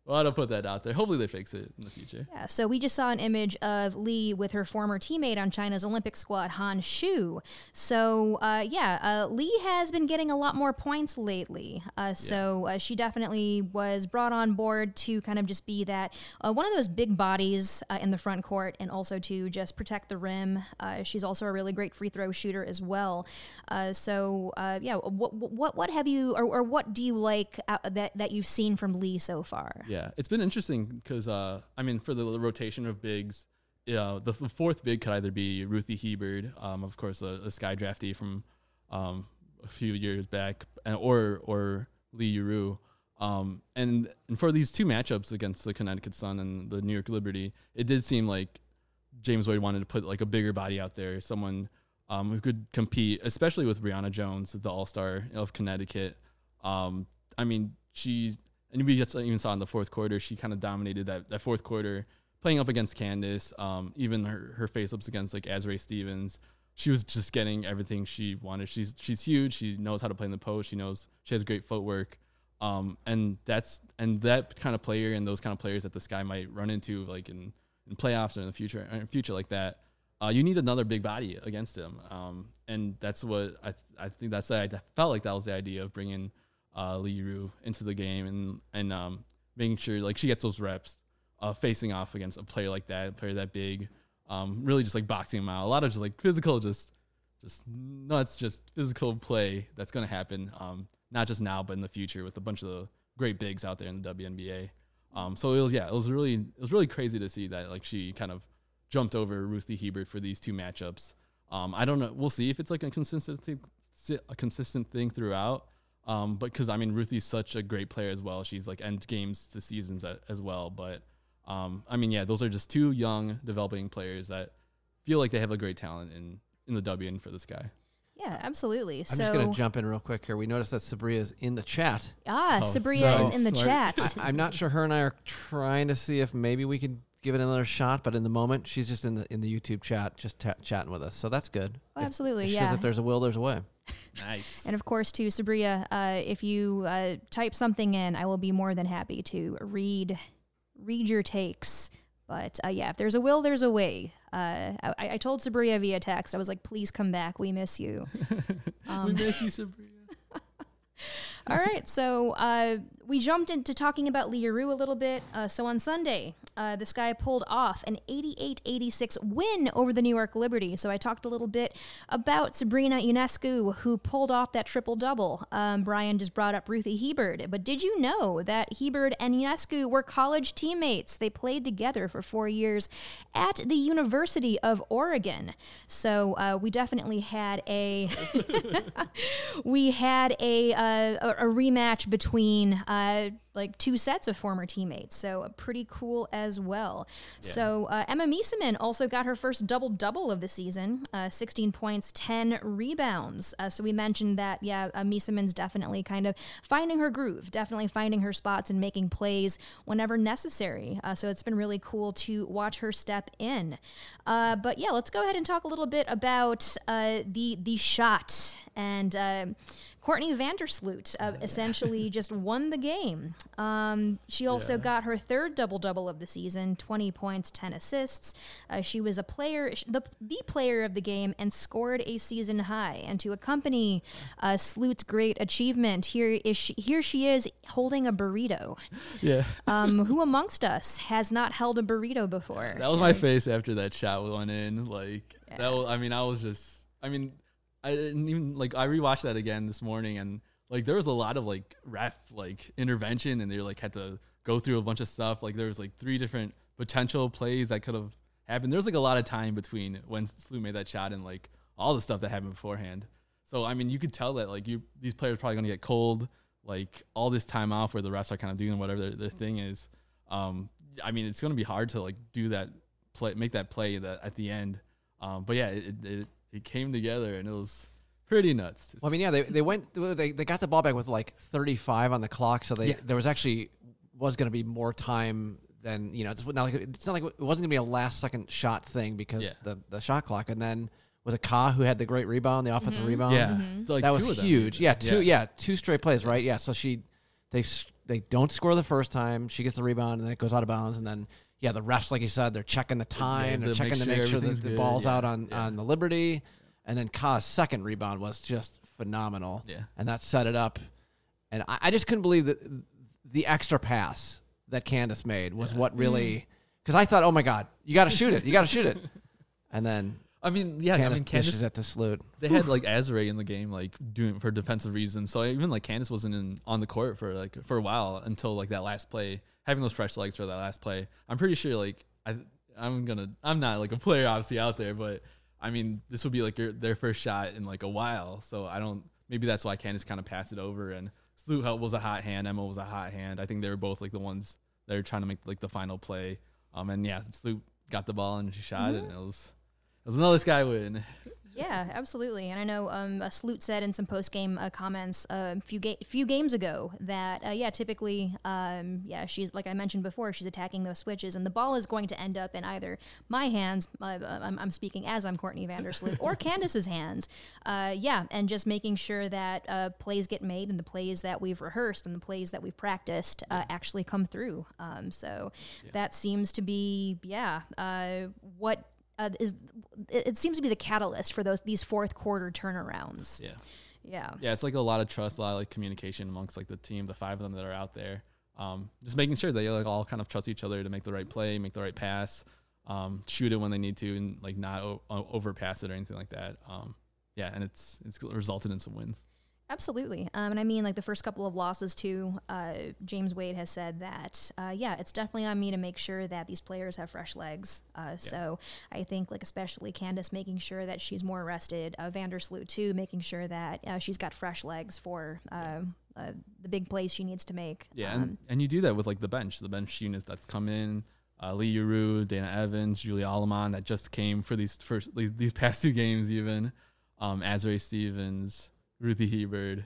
Well, I don't put that out there. Hopefully they fix it in the future. Yeah, so we just saw an image of Lee with her former teammate on China's Olympic squad, Han Shu. So, uh, yeah, uh, Lee has been getting a lot more points lately. Uh, so uh, she definitely was brought on board to kind of just be that uh, one of those big bodies uh, in the front court and also to just protect the rim. Uh, she's also a really great free throw shooter as well. Uh, so, uh, yeah, what, what what have you, or, or what do you like uh, that, that you've seen from Lee so far? Yeah. Yeah, it's been interesting because, uh, I mean, for the rotation of bigs, uh, the, the fourth big could either be Ruthie Hebard, um, of course, a, a Sky draftee from um, a few years back, and, or or Lee Yuru. Um, and, and for these two matchups against the Connecticut Sun and the New York Liberty, it did seem like James Wade wanted to put like a bigger body out there, someone um, who could compete, especially with Brianna Jones, the All-Star of Connecticut. Um, I mean, she's... And we just even saw in the fourth quarter, she kind of dominated that, that fourth quarter, playing up against Candace, um, even her, her face-ups against, like, Azrae Stevens. She was just getting everything she wanted. She's she's huge. She knows how to play in the post. She knows she has great footwork. Um, and that's and that kind of player and those kind of players that the Sky might run into, like, in, in playoffs or in the future, or in future like that, uh, you need another big body against them. Um, and that's what I I think that's I felt like that was the idea of bringing Uh, Lee Yuru into the game and and um, making sure like she gets those reps uh, facing off against a player like that, a player that big, um, really just like boxing him out. A lot of just like physical, just just nuts, just physical play that's gonna happen. Um, not just now, but in the future with a bunch of the great bigs out there in the W N B A. Um, so it was yeah, it was really it was really crazy to see that like she kind of jumped over Ruthie Hebard for these two matchups. Um, I don't know. We'll see if it's like a consistent thing, a consistent thing throughout. Um, but because I mean, Ruthie's such a great player as well. She's like end games to seasons a, as well. But um, I mean, yeah, those are just two young developing players that feel like they have a great talent in, in the W N for the Sky. Yeah, absolutely. I'm so, just going to jump in real quick here. We noticed that Sabria is in the chat. Ah, Oh, Sabria so is in the smart. chat. I, I'm not sure her and I are trying to see if maybe we could give it another shot, but in the moment, she's just in the in the YouTube chat, just ta- chatting with us. So that's good. Oh, If- absolutely, if she yeah. says if there's a will, there's a way. Nice. And of course, too, Sabria, uh, if you uh, type something in, I will be more than happy to read read your takes. But uh, yeah, if there's a will, there's a way. Uh, I, I told Sabria via text, I was like, please come back. We miss you. we miss you, Sabria. All right, so uh, we jumped into talking about Lee Yuru a little bit. Uh, so on Sunday, uh, the Sky pulled off an eighty-eight eighty-six win over the New York Liberty. So I talked a little bit about Sabrina Ionescu, who pulled off that triple-double. Um, Brian just brought up Ruthie Hebard. But did you know that Hebard and Ionescu were college teammates? They played together for four years at the University of Oregon. So uh, we definitely had a... we had a... Uh, A, a rematch between uh, like two sets of former teammates, so uh, pretty cool as well. Yeah. So uh, Emma Miesemann also got her first double-double of the season, uh, sixteen points, ten rebounds. Uh, so we mentioned that, yeah, uh, Miesemann's definitely kind of finding her groove, definitely finding her spots and making plays whenever necessary. Uh, so it's been really cool to watch her step in. Uh, but yeah, let's go ahead and talk a little bit about uh, the the shot. And uh, Courtney Vandersloot uh, essentially just won the game. Um, she also Yeah. got her third double-double of the season, twenty points, ten assists. Uh, she was a player, the, the player of the game, and scored a season high. And to accompany uh, Sloot's great achievement, here is she, here she is holding a burrito. Yeah. Um, who amongst us has not held a burrito before? That was my face after that shot went in. Like Yeah. that was, I mean, I was just, I mean, I didn't even like. I rewatched that again this morning, and like there was a lot of like ref like intervention, and they like had to go through a bunch of stuff. Like there was like three different potential plays that could have happened. There was like a lot of time between when Sloot made that shot and like all the stuff that happened beforehand. So I mean, you could tell that like you these players are probably gonna get cold. Like all this time off where the refs are kind of doing whatever their, their thing is. Um, I mean, it's gonna be hard to like do that play, make that play that at the end. Um, but yeah, it, it it came together and it was pretty nuts. Well, I mean, yeah, they they went they, they got the ball back with like thirty-five on the clock, so they Yeah. there was actually was going to be more time than you know. It's not like it's not like it wasn't going to be a last second shot thing because Yeah. the the shot clock, and then was it Ka who had the great rebound, the offensive rebound? Yeah, It's like that two was of them. huge. Yeah, two Yeah. yeah two straight plays, right? Yeah, so she they s- they don't score the first time. She gets the rebound, and then it goes out of bounds. And then, yeah, the refs, like you said, they're checking the time. Yeah, they're to checking make to make sure sure that everything's the good, ball's yeah, out on, yeah. on the Liberty. And then Ka's second rebound was just phenomenal. Yeah. And that set it up. And I, I just couldn't believe that the extra pass that Candace made was Yeah. what really – because I thought, oh, my God, you got to shoot it. You got to shoot it. And then I mean, yeah, Candace I mean, Candace, dishes it to Sloot. they had like Azure in the game, like doing for defensive reasons. So even like Candace wasn't in, on the court for like for a while until like that last play, having those fresh legs for that last play. I'm pretty sure like I I'm gonna I'm not like a player obviously out there, but I mean this will be like your, their first shot in like a while. So I don't maybe that's why Candace kind of passed it over and Sloot was a hot hand, Emma was a hot hand. I think they were both like the ones that were trying to make like the final play. Um and yeah, Sloot got the ball and she shot Mm-hmm. it and it was it was another Sky win. Yeah, absolutely. And I know um, uh, Sloot said in some post game uh, comments uh, a few ga- few games ago that uh, yeah, typically, um, yeah, she's like I mentioned before, she's attacking those switches, and the ball is going to end up in either my hands. Uh, I'm, I'm speaking as I'm Courtney Vandersloot, or Candace's hands. Uh, yeah, and just making sure that uh, plays get made, and the plays that we've rehearsed and the plays that we've practiced uh, actually come through. Um, so Yeah. that seems to be yeah, uh, what. Uh, is it, it seems to be the catalyst for those these fourth quarter turnarounds. Yeah. Yeah. Yeah, it's like a lot of trust, a lot of like communication amongst like the team, the five of them that are out there. Um, just making sure they like all kind of trust each other to make the right play, make the right pass, um, shoot it when they need to, and like not o- o- overpass it or anything like that. Um, yeah, and it's it's resulted in some wins. Absolutely. Um, and I mean, like the first couple of losses too, uh, James Wade has said that, uh, yeah, it's definitely on me to make sure that these players have fresh legs. Uh, So I think like especially Candace making sure that she's more rested, uh, Vandersloot too, making sure that uh, she's got fresh legs for uh, uh, the big plays she needs to make. Yeah, Um, and, and you do that with like the bench, the bench units that's come in. Uh, Lee Uru, Dana Evans, Julia Aleman that just came for these first these, these past two games even. Um, Azrae Stevens, Ruthie Hebert,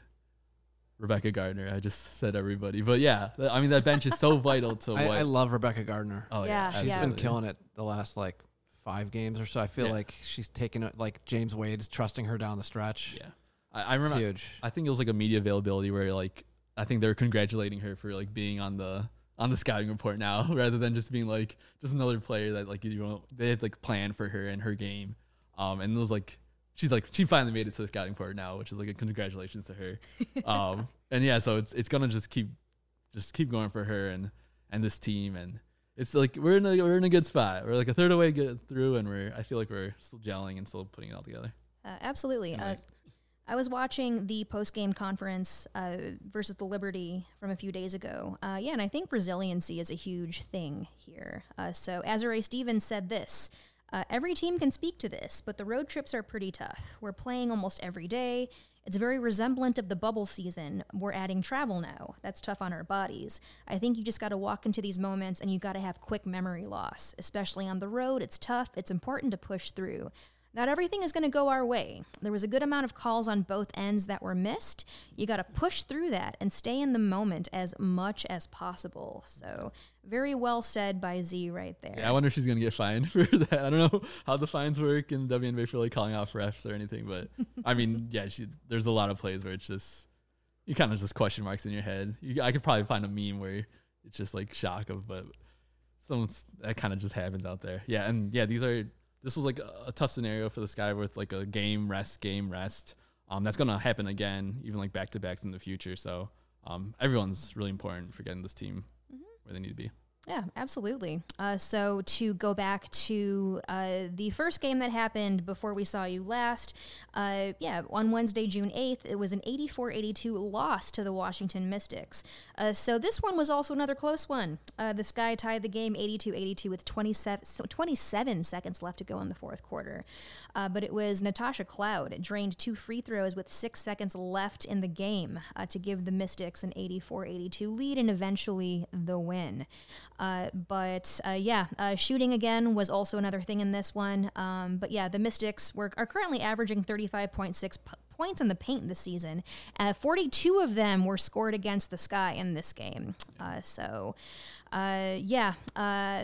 Rebecca Gardner. I just said everybody, but yeah, th- I mean that bench is so vital to I, what. I love Rebecca Gardner. oh Yeah, yeah, she's She's yeah. been absolutely. killing it the last like five games or so. I feel Yeah. like she's taken it like James Wade's trusting her down the stretch. Yeah, I, I It's remember. huge. I think it was like a media availability where like I think they're congratulating her for like being on the on the scouting report now rather than just being like just another player that like you know they had like planned for her and her game. Um, and it was like she's like she finally made it to the scouting report now, which is like a congratulations to her. Um, and yeah, so it's it's gonna just keep just keep going for her and and this team and. It's like we're in a we're in a good spot. We're like a third away get through, and we're I feel like we're still gelling and still putting it all together. Uh, absolutely. And, Uh, like- I was watching the post-game conference uh, versus the Liberty from a few days ago. Uh, yeah, and I think resiliency is a huge thing here. Uh, so Azrae Stevens said this. Uh, every team can speak to this, but the road trips are pretty tough. We're playing almost every day. It's very resemblant of the bubble season. We're adding travel now. That's tough on our bodies. I think you just got to walk into these moments and you got to have quick memory loss. Especially on the road, it's tough. It's important to push through. Not everything is going to go our way. There was a good amount of calls on both ends that were missed. You got to push through that and stay in the moment as much as possible. So, very well said by Z right there. Yeah, I wonder if she's gonna get fined for that. I don't know how the fines work in the W N B A for like calling out refs or anything, but I mean, yeah, she, there's a lot of plays where it's just you kind of just question marks in your head. You, I could probably find a meme where it's just like shock of, but some that kind of just happens out there. Yeah, and yeah, these are this was like a, a tough scenario for the Sky with like a game rest, game rest. Um, that's gonna happen again, even like back to backs in the future. So um, everyone's really important for getting this team Mm-hmm. where they need to be. Yeah, absolutely. Uh, so to go back to uh, the first game that happened before we saw you last, uh, yeah, on Wednesday, June eighth, it was an eighty-four eighty-two loss to the Washington Mystics. Uh, so this one was also another close one. Uh, the Sky tied the game eighty-two eighty-two with twenty-seven, so twenty-seven seconds left to go in the fourth quarter. Uh, but it was Natasha Cloud drained two free throws with six seconds left in the game uh, to give the Mystics an eighty-four eighty-two lead and eventually the win. Uh, but uh, yeah, uh, shooting again was also another thing in this one. Um, but yeah, the Mystics were, are currently averaging thirty-five point six p- points in the paint this season. Uh, forty-two of them were scored against the Sky in this game. Uh, so uh, yeah, uh,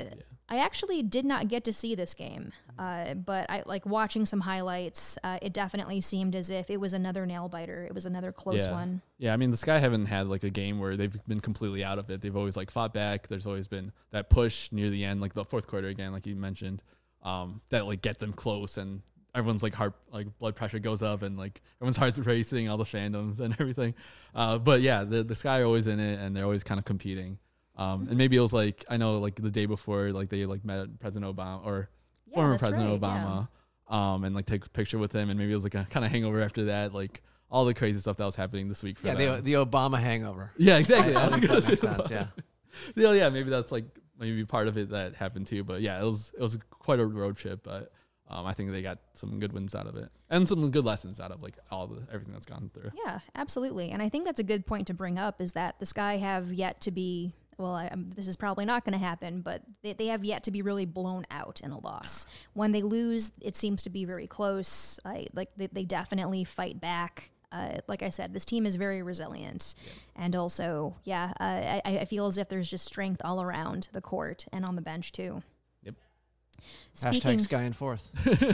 I actually did not get to see this game, uh, but I like watching some highlights. Uh, it definitely seemed as if it was another nail biter. It was another close yeah. one. Yeah, I mean, the Sky haven't had like a game where they've been completely out of it. They've always like fought back. There's always been that push near the end, like the fourth quarter again, like you mentioned, um, that like get them close, and everyone's like heart, like blood pressure goes up, and like everyone's heart's racing, all the fandoms and everything. Uh, but yeah, the the Sky are always in it, and they're always kind of competing. Um, and maybe it was like, I know like the day before, like they like met President Obama or Yeah, former that's President right, Obama, um, and like take a picture with him. And maybe it was like a kind of hangover after that, like all the crazy stuff that was happening this week for Yeah, them. the, the Obama hangover. Yeah, exactly. I, I I was think gonna that makes say sense, that. yeah. Yeah, yeah, maybe that's like maybe part of it that happened too. But yeah, it was it was quite a road trip, but um, I think they got some good wins out of it and some good lessons out of like all the everything that's gone through. Yeah, absolutely. And I think that's a good point to bring up is that the Sky have yet to be, well, I, um, this is probably not going to happen, but they, they have yet to be really blown out in a loss. When they lose, it seems to be very close. I, like they, they definitely fight back. Uh, like I said, this team is very resilient. Yeah. And also, yeah, uh, I, I feel as if there's just strength all around the court and on the bench too. Yep. Hashtag Sky in fourth.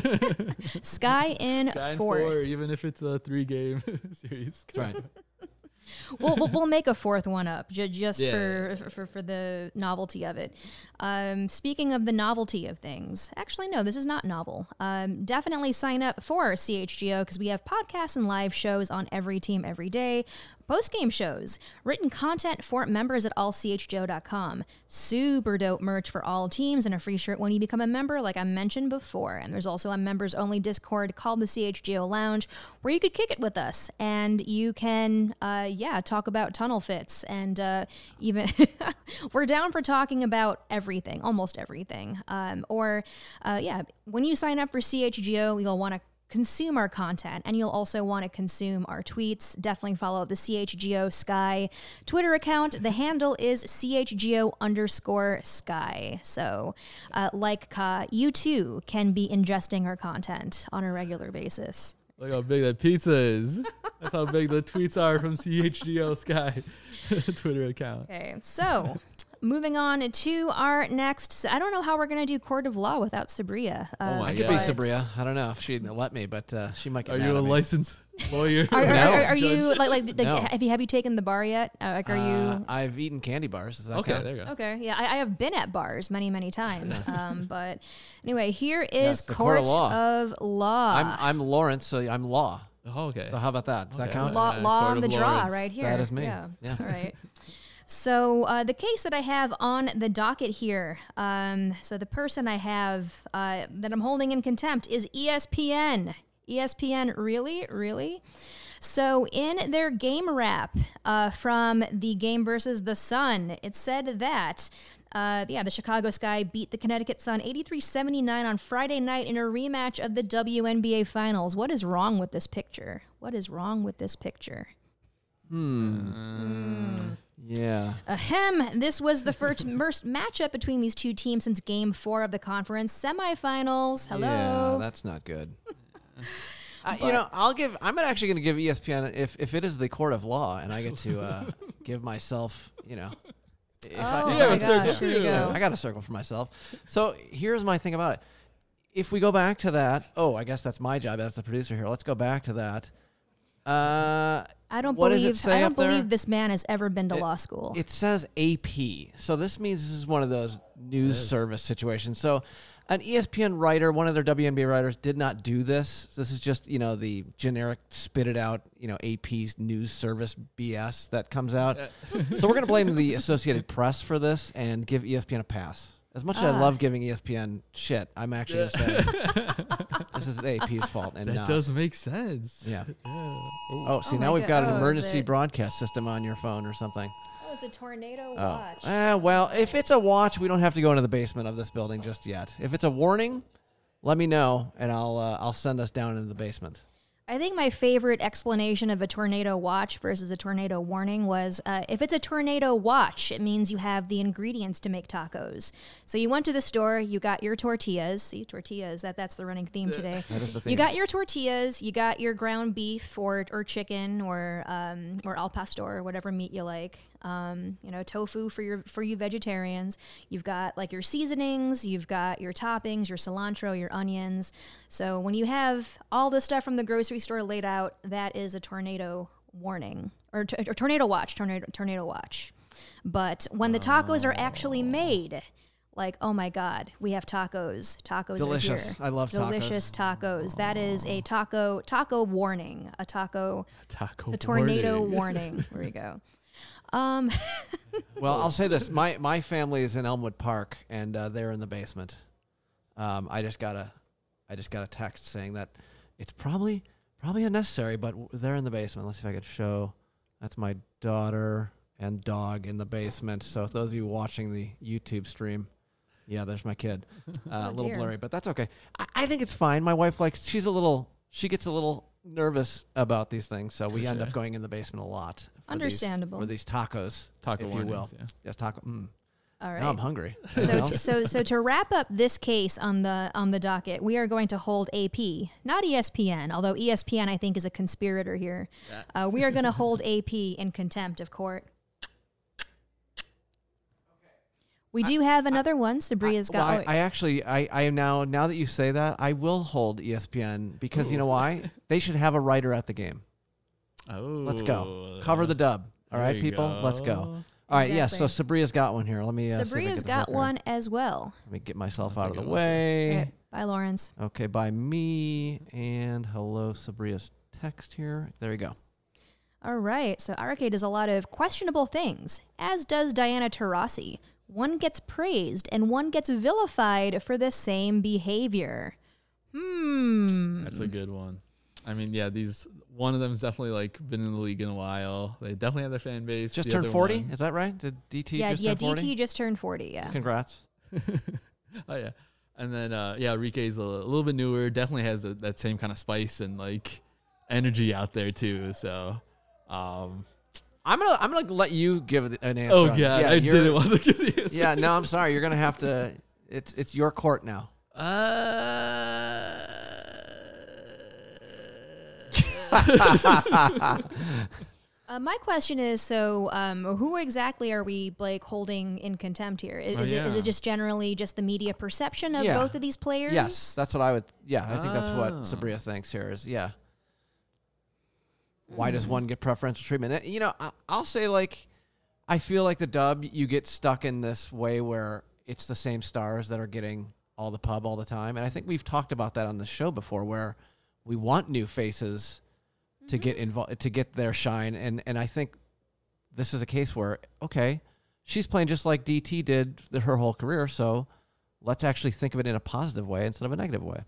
Sky in Sky in fourth. four, even if it's a three game series. Right. we'll, we'll we'll make a fourth one up ju- just Yeah. for, for for the novelty of it. Um, speaking of the novelty of things, actually no, this is not novel. Um, definitely sign up for C H G O because we have podcasts and live shows on every team every day. Post-game shows, written content for members at all c h g o dot com, super dope merch for all teams, and a free shirt when you become a member, like I mentioned before. And there's also a members-only Discord called the C H G O Lounge, where you could kick it with us, and you can, uh, yeah, talk about tunnel fits, and uh, even we're down for talking about everything, almost everything. Um, or, uh, yeah, when you sign up for C H G O, you'll want to consume our content, and you'll also want to consume our tweets. Definitely follow the C H G O Sky Twitter account. The handle is C H G O underscore Sky. So, uh, like Ka, you too can be ingesting our content on a regular basis. Look how big that pizza is. That's how big the tweets are from C H G O Sky Twitter account. Okay, so moving on to our next. I don't know how we're going to do Court of Law without Sabria. Uh, Oh my I could God. be Sabria. I don't know if she'd let me, but uh, she might get Are mad you a at me. licensed lawyer? Are, are, No. are, are you Judge? like like, like No. have you have you taken the bar yet? Uh, like, are Uh, you? I've eaten candy bars. Does that Okay, count? there you go. Okay, yeah, I, I have been at bars many, many times. um, but anyway, here Yeah, is it's the Court Court of Law. of Law. I'm I'm Lawrence, so I'm Law. Oh, okay. So how about that? Does that Okay. count? law, Uh, law Court on of the draw Lawrence. right here. That is me. Yeah. Yeah. All right. So uh, the case that I have on the docket here, um, so the person I have uh, that I'm holding in contempt is E S P N. E S P N, really, really. So in their game wrap uh, from the game versus the Sun, it said that. Uh, yeah, the Chicago Sky beat the Connecticut Sun eighty-three seventy-nine on Friday night in a rematch of the W N B A Finals. What is wrong with this picture? What is wrong with this picture? Yeah. Ahem. This was the first, first matchup between these two teams since Game Four of the conference semifinals. Hello. Yeah, that's not good. Uh, you know, I'll give. I'm actually going to give E S P N if if it is the Court of Law, and I get to uh, give myself. You know, if Oh I, my if Yeah, I- but circle gosh, here we too. go. I got a circle for myself. So here's my thing about it. If we go back to that, oh, I guess that's my job as the producer here. Let's go back to that. Uh, I don't what does believe it say I don't up there? believe this man has ever been to It- law school. It says A P. So this means this is one of those news is. service situations. So an E S P N writer, one of their W N B A writers, did not do this. This is just, you know, the generic spit it out, you know, A P's news service B S that comes out. So we're going to blame the Associated Press for this and give E S P N a pass. As much as I Ah. love giving E S P N shit, I'm actually going to say this is A P's fault and That not. does make sense. Yeah. Yeah. Oh. Oh, see, Oh now my we've got God. an Oh, is emergency it- broadcast system on your phone or something. Oh, it's a tornado Oh, watch. eh, well, if it's a watch, we don't have to go into the basement of this building just yet. If it's a warning, let me know, and I'll uh, I'll send us down into the basement. I think my favorite explanation of a tornado watch versus a tornado warning was uh, if it's a tornado watch, it means you have the ingredients to make tacos. So you went to the store, you got your tortillas. See, tortillas, that, that's the running theme today. That is the theme. You got your tortillas, you got your ground beef or, or chicken or um, or al pastor or whatever meat you like. Um, you know, tofu for your for you vegetarians. You've got like your seasonings, you've got your toppings, your cilantro, your onions. So when you have all the stuff from the grocery store laid out, that is a tornado warning or, t- or tornado watch, tornado tornado watch. But when the tacos are actually made, like, oh my God, we have tacos. Tacos Delicious. are here. I love tacos. Delicious tacos. That is a taco taco warning. A taco Taco a tornado warning. warning. There we go. Um, Well, I'll say this: my my family is in Elmwood Park, and uh, they're in the basement. Um, I just got a, I just got a text saying that it's probably probably unnecessary, but w- they're in the basement. Let's see if I could show. That's my daughter and dog in the basement. So those of you watching the YouTube stream, yeah, there's my kid. Uh, Oh, a little dear. blurry, but that's okay. I, I think it's fine. My wife likes. She's a little. She gets a little nervous about these things, so we end up going in the basement a lot. For Understandable. These, for these tacos, Taco if you will. warnings, yeah. Yes, taco. Mm. all Now I'm right. hungry. So, Anything t- else? so, so to wrap up this case on the on the docket, we are going to hold A P, not E S P N. Although E S P N, I think, is a conspirator here. Uh, we are going to hold A P in contempt of court. We do have another one. Sabria's I, well, got. I, I actually, I, I am now. Now that you say that, I will hold E S P N because you know why? They should have a writer at the game. Oh, Let's go. Cover the dub. All there right, you people. Let's go. All right. Yes. so Exactly. Sabria's got one here. Let me. Uh, see if I Sabria's get this got up here. one as well. Let me get myself That's out a of the good one. way. Okay, bye, Lawrence. Okay. By me and hello, Sabria's text here. There you go. All right. So Arcade does a lot of questionable things, as does Diana Taurasi. One gets praised and one gets vilified for the same behavior. Hmm. That's a good one. I mean, yeah, these one of them's definitely like been in the league in a while. They definitely have their fan base. Just The turned other forty. one- Is that right? Did D T yeah, just yeah. turn forty? D T just turned forty. Yeah. Congrats. Oh yeah, and then uh, yeah, Enrique's a, a little bit newer. Definitely has the, that same kind of spice and like energy out there too. So, um, I'm gonna I'm gonna let you give it an answer. oh on- god, yeah, I you're- didn't want to give the answer. Yeah, no, I'm sorry. You're gonna have to. It's it's your court now. Uh, Uh, my question is, so um, who exactly are we like holding in contempt here? Is, Oh, is it is yeah. it just generally just the media perception of Yeah. both of these players? Yes, that's what I would. Yeah, I think that's what Oh. Sabria thinks here is. Yeah. Why does one get preferential treatment? Uh, You know, I, I'll say like, I feel like the dub, you get stuck in this way where it's the same stars that are getting all the pub all the time, and I think we've talked about that on the show before, where we want new faces to get involved, to get their shine, and and I think this is a case where okay, she's playing just like D T did the, her whole career, so let's actually think of it in a positive way instead of a negative way.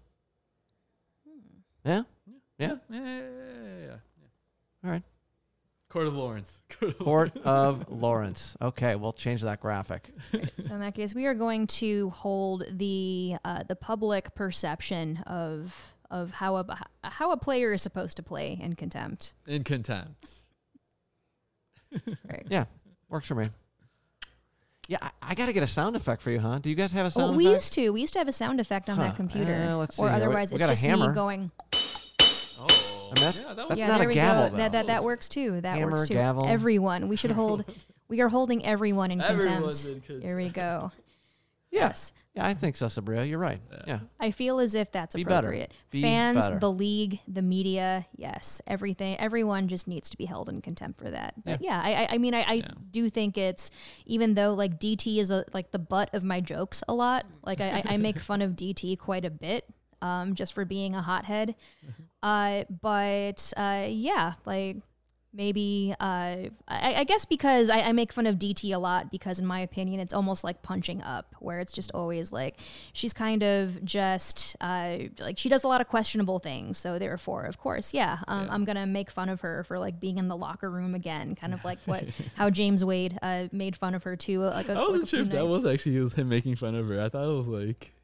Yeah, yeah. yeah, yeah, yeah, yeah. All right. Court of Lawrence. Court of Lawrence. Okay, we'll change that graphic. So in that case, we are going to hold the uh, the public perception of of how a how a player is supposed to play in contempt. In contempt. Right. Yeah, works for me. Yeah, I, I got to get a sound effect for you, huh? Do you guys have a sound Well, we effect? used to. We used to have a sound effect on Huh. that computer. Uh, let's see or here. We- otherwise, we it's got a just hammer. me going. Oh, And that's- yeah, that that's was yeah, not there a we gavel, go. though. That that, that works too. That Hammer, works too. gavel. Everyone. We should hold. We are holding everyone in Everyone's contempt. in contempt. Here we go. Yes. Yeah, I think so, Sabria. You're right. Yeah. Yeah. I feel as if that's Be better. appropriate. Be Fans, better. the league, the media, yes, everything. Everyone just needs to be held in contempt for that. But yeah, I, I, I mean, I, I Yeah. do think it's even though like D T is a, like the butt of my jokes a lot. Like I, I I make fun of D T quite a bit, um, just for being a hothead. Uh, but uh, yeah, like. Maybe, uh, I, I guess because I, I make fun of D T a lot because in my opinion, it's almost like punching up where it's just always like, she's kind of just, uh, like she does a lot of questionable things. So therefore, of course, yeah, um, Yeah. I'm going to make fun of her for like being in the locker room again, kind of like what, how James Wade, uh, made fun of her too. Like a, I like a wasn't sure few if that nights. was actually was him making fun of her. I thought it was like he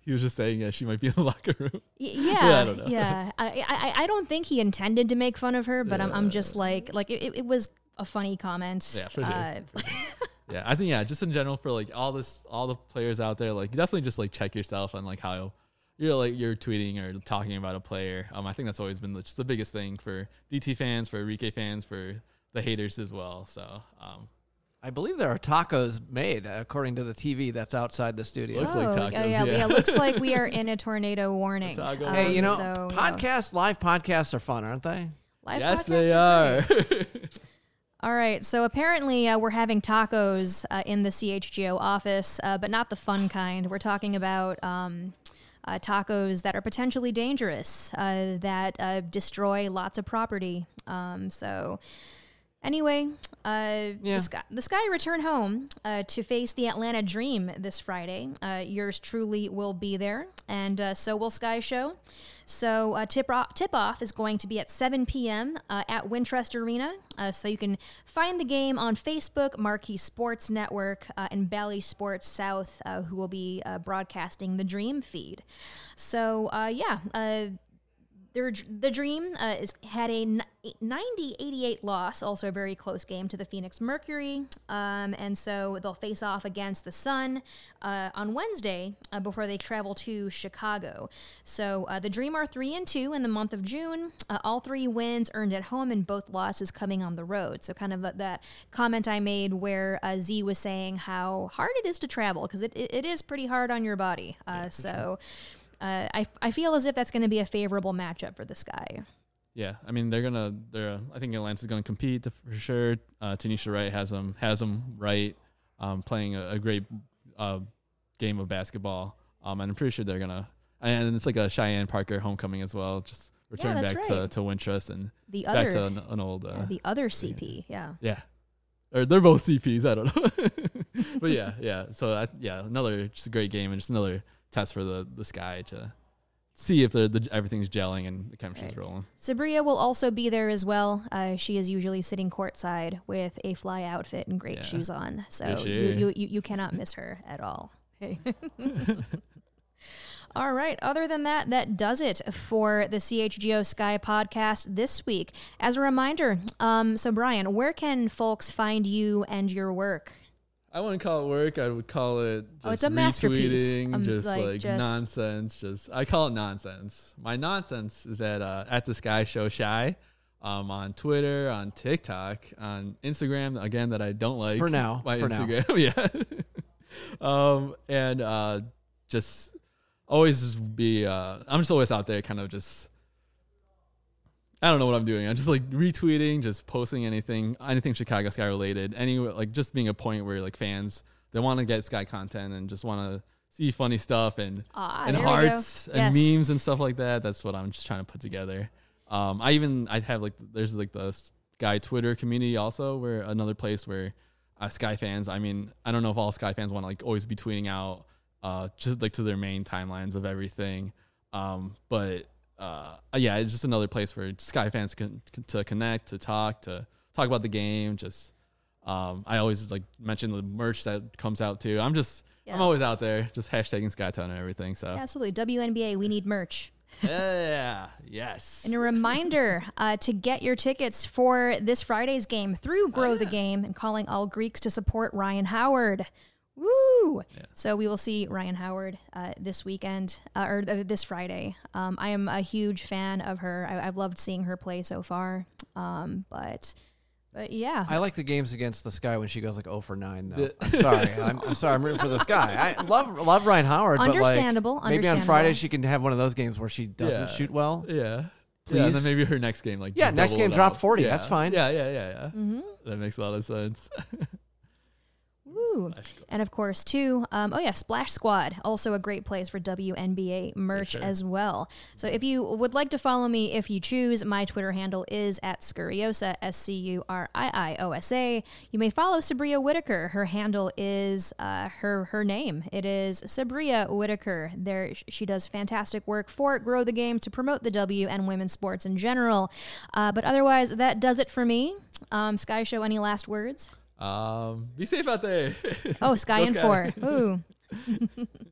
he was just saying yeah, she might be in the locker room. Y- Yeah, yeah, I don't know. yeah. I, I I don't think he intended to make fun of her, but I'm I'm just like like it, it was a funny comment. Yeah, for sure. Uh, For sure. Yeah, I think yeah, just in general for like all this, all the players out there, like definitely just like check yourself on like how you're like you're tweeting or talking about a player. Um, I think that's always been the, just the biggest thing for D T fans, for Enrique fans, for the haters as well. So, um, I believe there are tacos made, according to the T V that's outside the studio. Looks oh, like oh, tacos, yeah, yeah. yeah. It looks like we are in a tornado warning. taco Um, Hey, you know, so, yeah. podcasts, live podcasts are fun, aren't they? Live yes, podcasts they are great. are. All right, so apparently uh, we're having tacos uh, in the C H G O office, uh, but not the fun kind. We're talking about um, uh, tacos that are potentially dangerous, uh, that uh, destroy lots of property. Um, so anyway, uh, Yeah. the, Sky, the Sky return home uh, to face the Atlanta Dream this Friday. Uh, yours truly will be there, and uh, so will Sky Show. So uh, tip, o- tip off is going to be at seven p.m. Uh, at Wintrust Arena. Uh, so you can find the game on Facebook, Marquee Sports Network, uh, and Bally Sports South, uh, who will be uh, broadcasting the Dream feed. So uh, yeah, uh, their, the Dream uh, is, had a ninety eighty-eight loss, also a very close game to the Phoenix Mercury. Um, and so they'll face off against the Sun uh, on Wednesday uh, before they travel to Chicago. So uh, the Dream are three and two in the month of June. Uh, all three wins earned at home and both losses coming on the road. So kind of that, that comment I made where uh, Z was saying how hard it is to travel, because it, it, it is pretty hard on your body. Uh, Yeah, so... Uh, I, I feel as if that's going to be a favorable matchup for the Sky. Yeah, I mean they're gonna. They're. I think Atlanta's gonna compete to, for sure. Uh, Tanisha Wright has them. Has them right. Um, playing a, a great uh, game of basketball. Um, and I'm pretty sure they're gonna. And it's like a Cheyenne Parker homecoming as well. Just return that's back right. to, to Wintrust and The back other, to an, an old. Uh, yeah, the other C P, yeah. yeah, or they're both C Ps. I don't know. But yeah, yeah. So I, yeah, another just a great game and just another test for the the Sky to see if the, the everything's gelling and the chemistry's Right. rolling. Sabria will also be there as well. Uh, she is usually sitting courtside with a fly outfit and great Yeah. shoes on. So For you, sure. you, you, you cannot miss her at all. Hey. All right. Other than that, that does it for the C H G O Sky podcast this week. As a reminder, um, so Brian, where can folks find you and your work? I wouldn't call it work. I would call it just Oh, it's a masterpiece. retweeting, Um, just like, like, just- nonsense. Just I call it nonsense. My nonsense is at uh, at the Sky Show Shy, um, on Twitter, on TikTok, on Instagram. Again, that I don't like For now, My for now. Instagram, yeah. um, and uh, just always just be. Uh, I'm just always out there, kind of just. I don't know what I'm doing. I'm just like retweeting, just posting anything, anything Chicago Sky related, any like just being a point where like fans they want to get Sky content and just want to see funny stuff and Ah, and there we go. hearts and Yes. memes and stuff like that. That's what I'm just trying to put together. Um, I even I have like there's like the Sky Twitter community also, where another place where uh, Sky fans. I mean, I don't know if all Sky fans want to like always be tweeting out uh, just like to their main timelines of everything, um, but. Uh, yeah, it's just another place for Sky fans can, can to connect, to talk, to talk about the game. Just, um, I always like mention the merch that comes out too. I'm just, Yeah. I'm always out there, just hashtagging Skytown and everything. So Absolutely. W N B A, we need merch. yeah, yes. And a reminder uh, to get your tickets for this Friday's game through Grow the Game and calling all Greeks to support Ryan Howard. Woo! Yeah. So we will see Ryan Howard uh, this weekend, uh, or uh, this Friday. Um, I am a huge fan of her. I, I've loved seeing her play so far. Um, but, but yeah. I like the games against the Sky when she goes like oh for nine, though. The- I'm sorry. I'm, I'm sorry. I'm rooting for the Sky. I love love Ryan Howard, Understandable, but like maybe on understandable. Friday she can have one of those games where she doesn't Yeah. shoot well. Yeah. Yeah, Please? and then maybe her next game, like Yeah, just next double game it drop out. forty. Yeah. That's fine. Yeah, yeah, yeah, yeah. Mm-hmm. That makes a lot of sense. Woo. And of course, too, um, oh yeah, Splash Squad, also a great place for W N B A merch sure. as well. So if you would like to follow me, if you choose, my Twitter handle is at Scurriosa, S C U R I I O S A. You may follow Sabria Whitaker. Her handle is uh, her her name. It is Sabria Whitaker. There, she does fantastic work for Grow the Game to promote the W and women's sports in general. Uh, but otherwise, that does it for me. Um, Sky Show, any last words? Um, be safe out there. Oh, Sky Go and Sky. four. Ooh.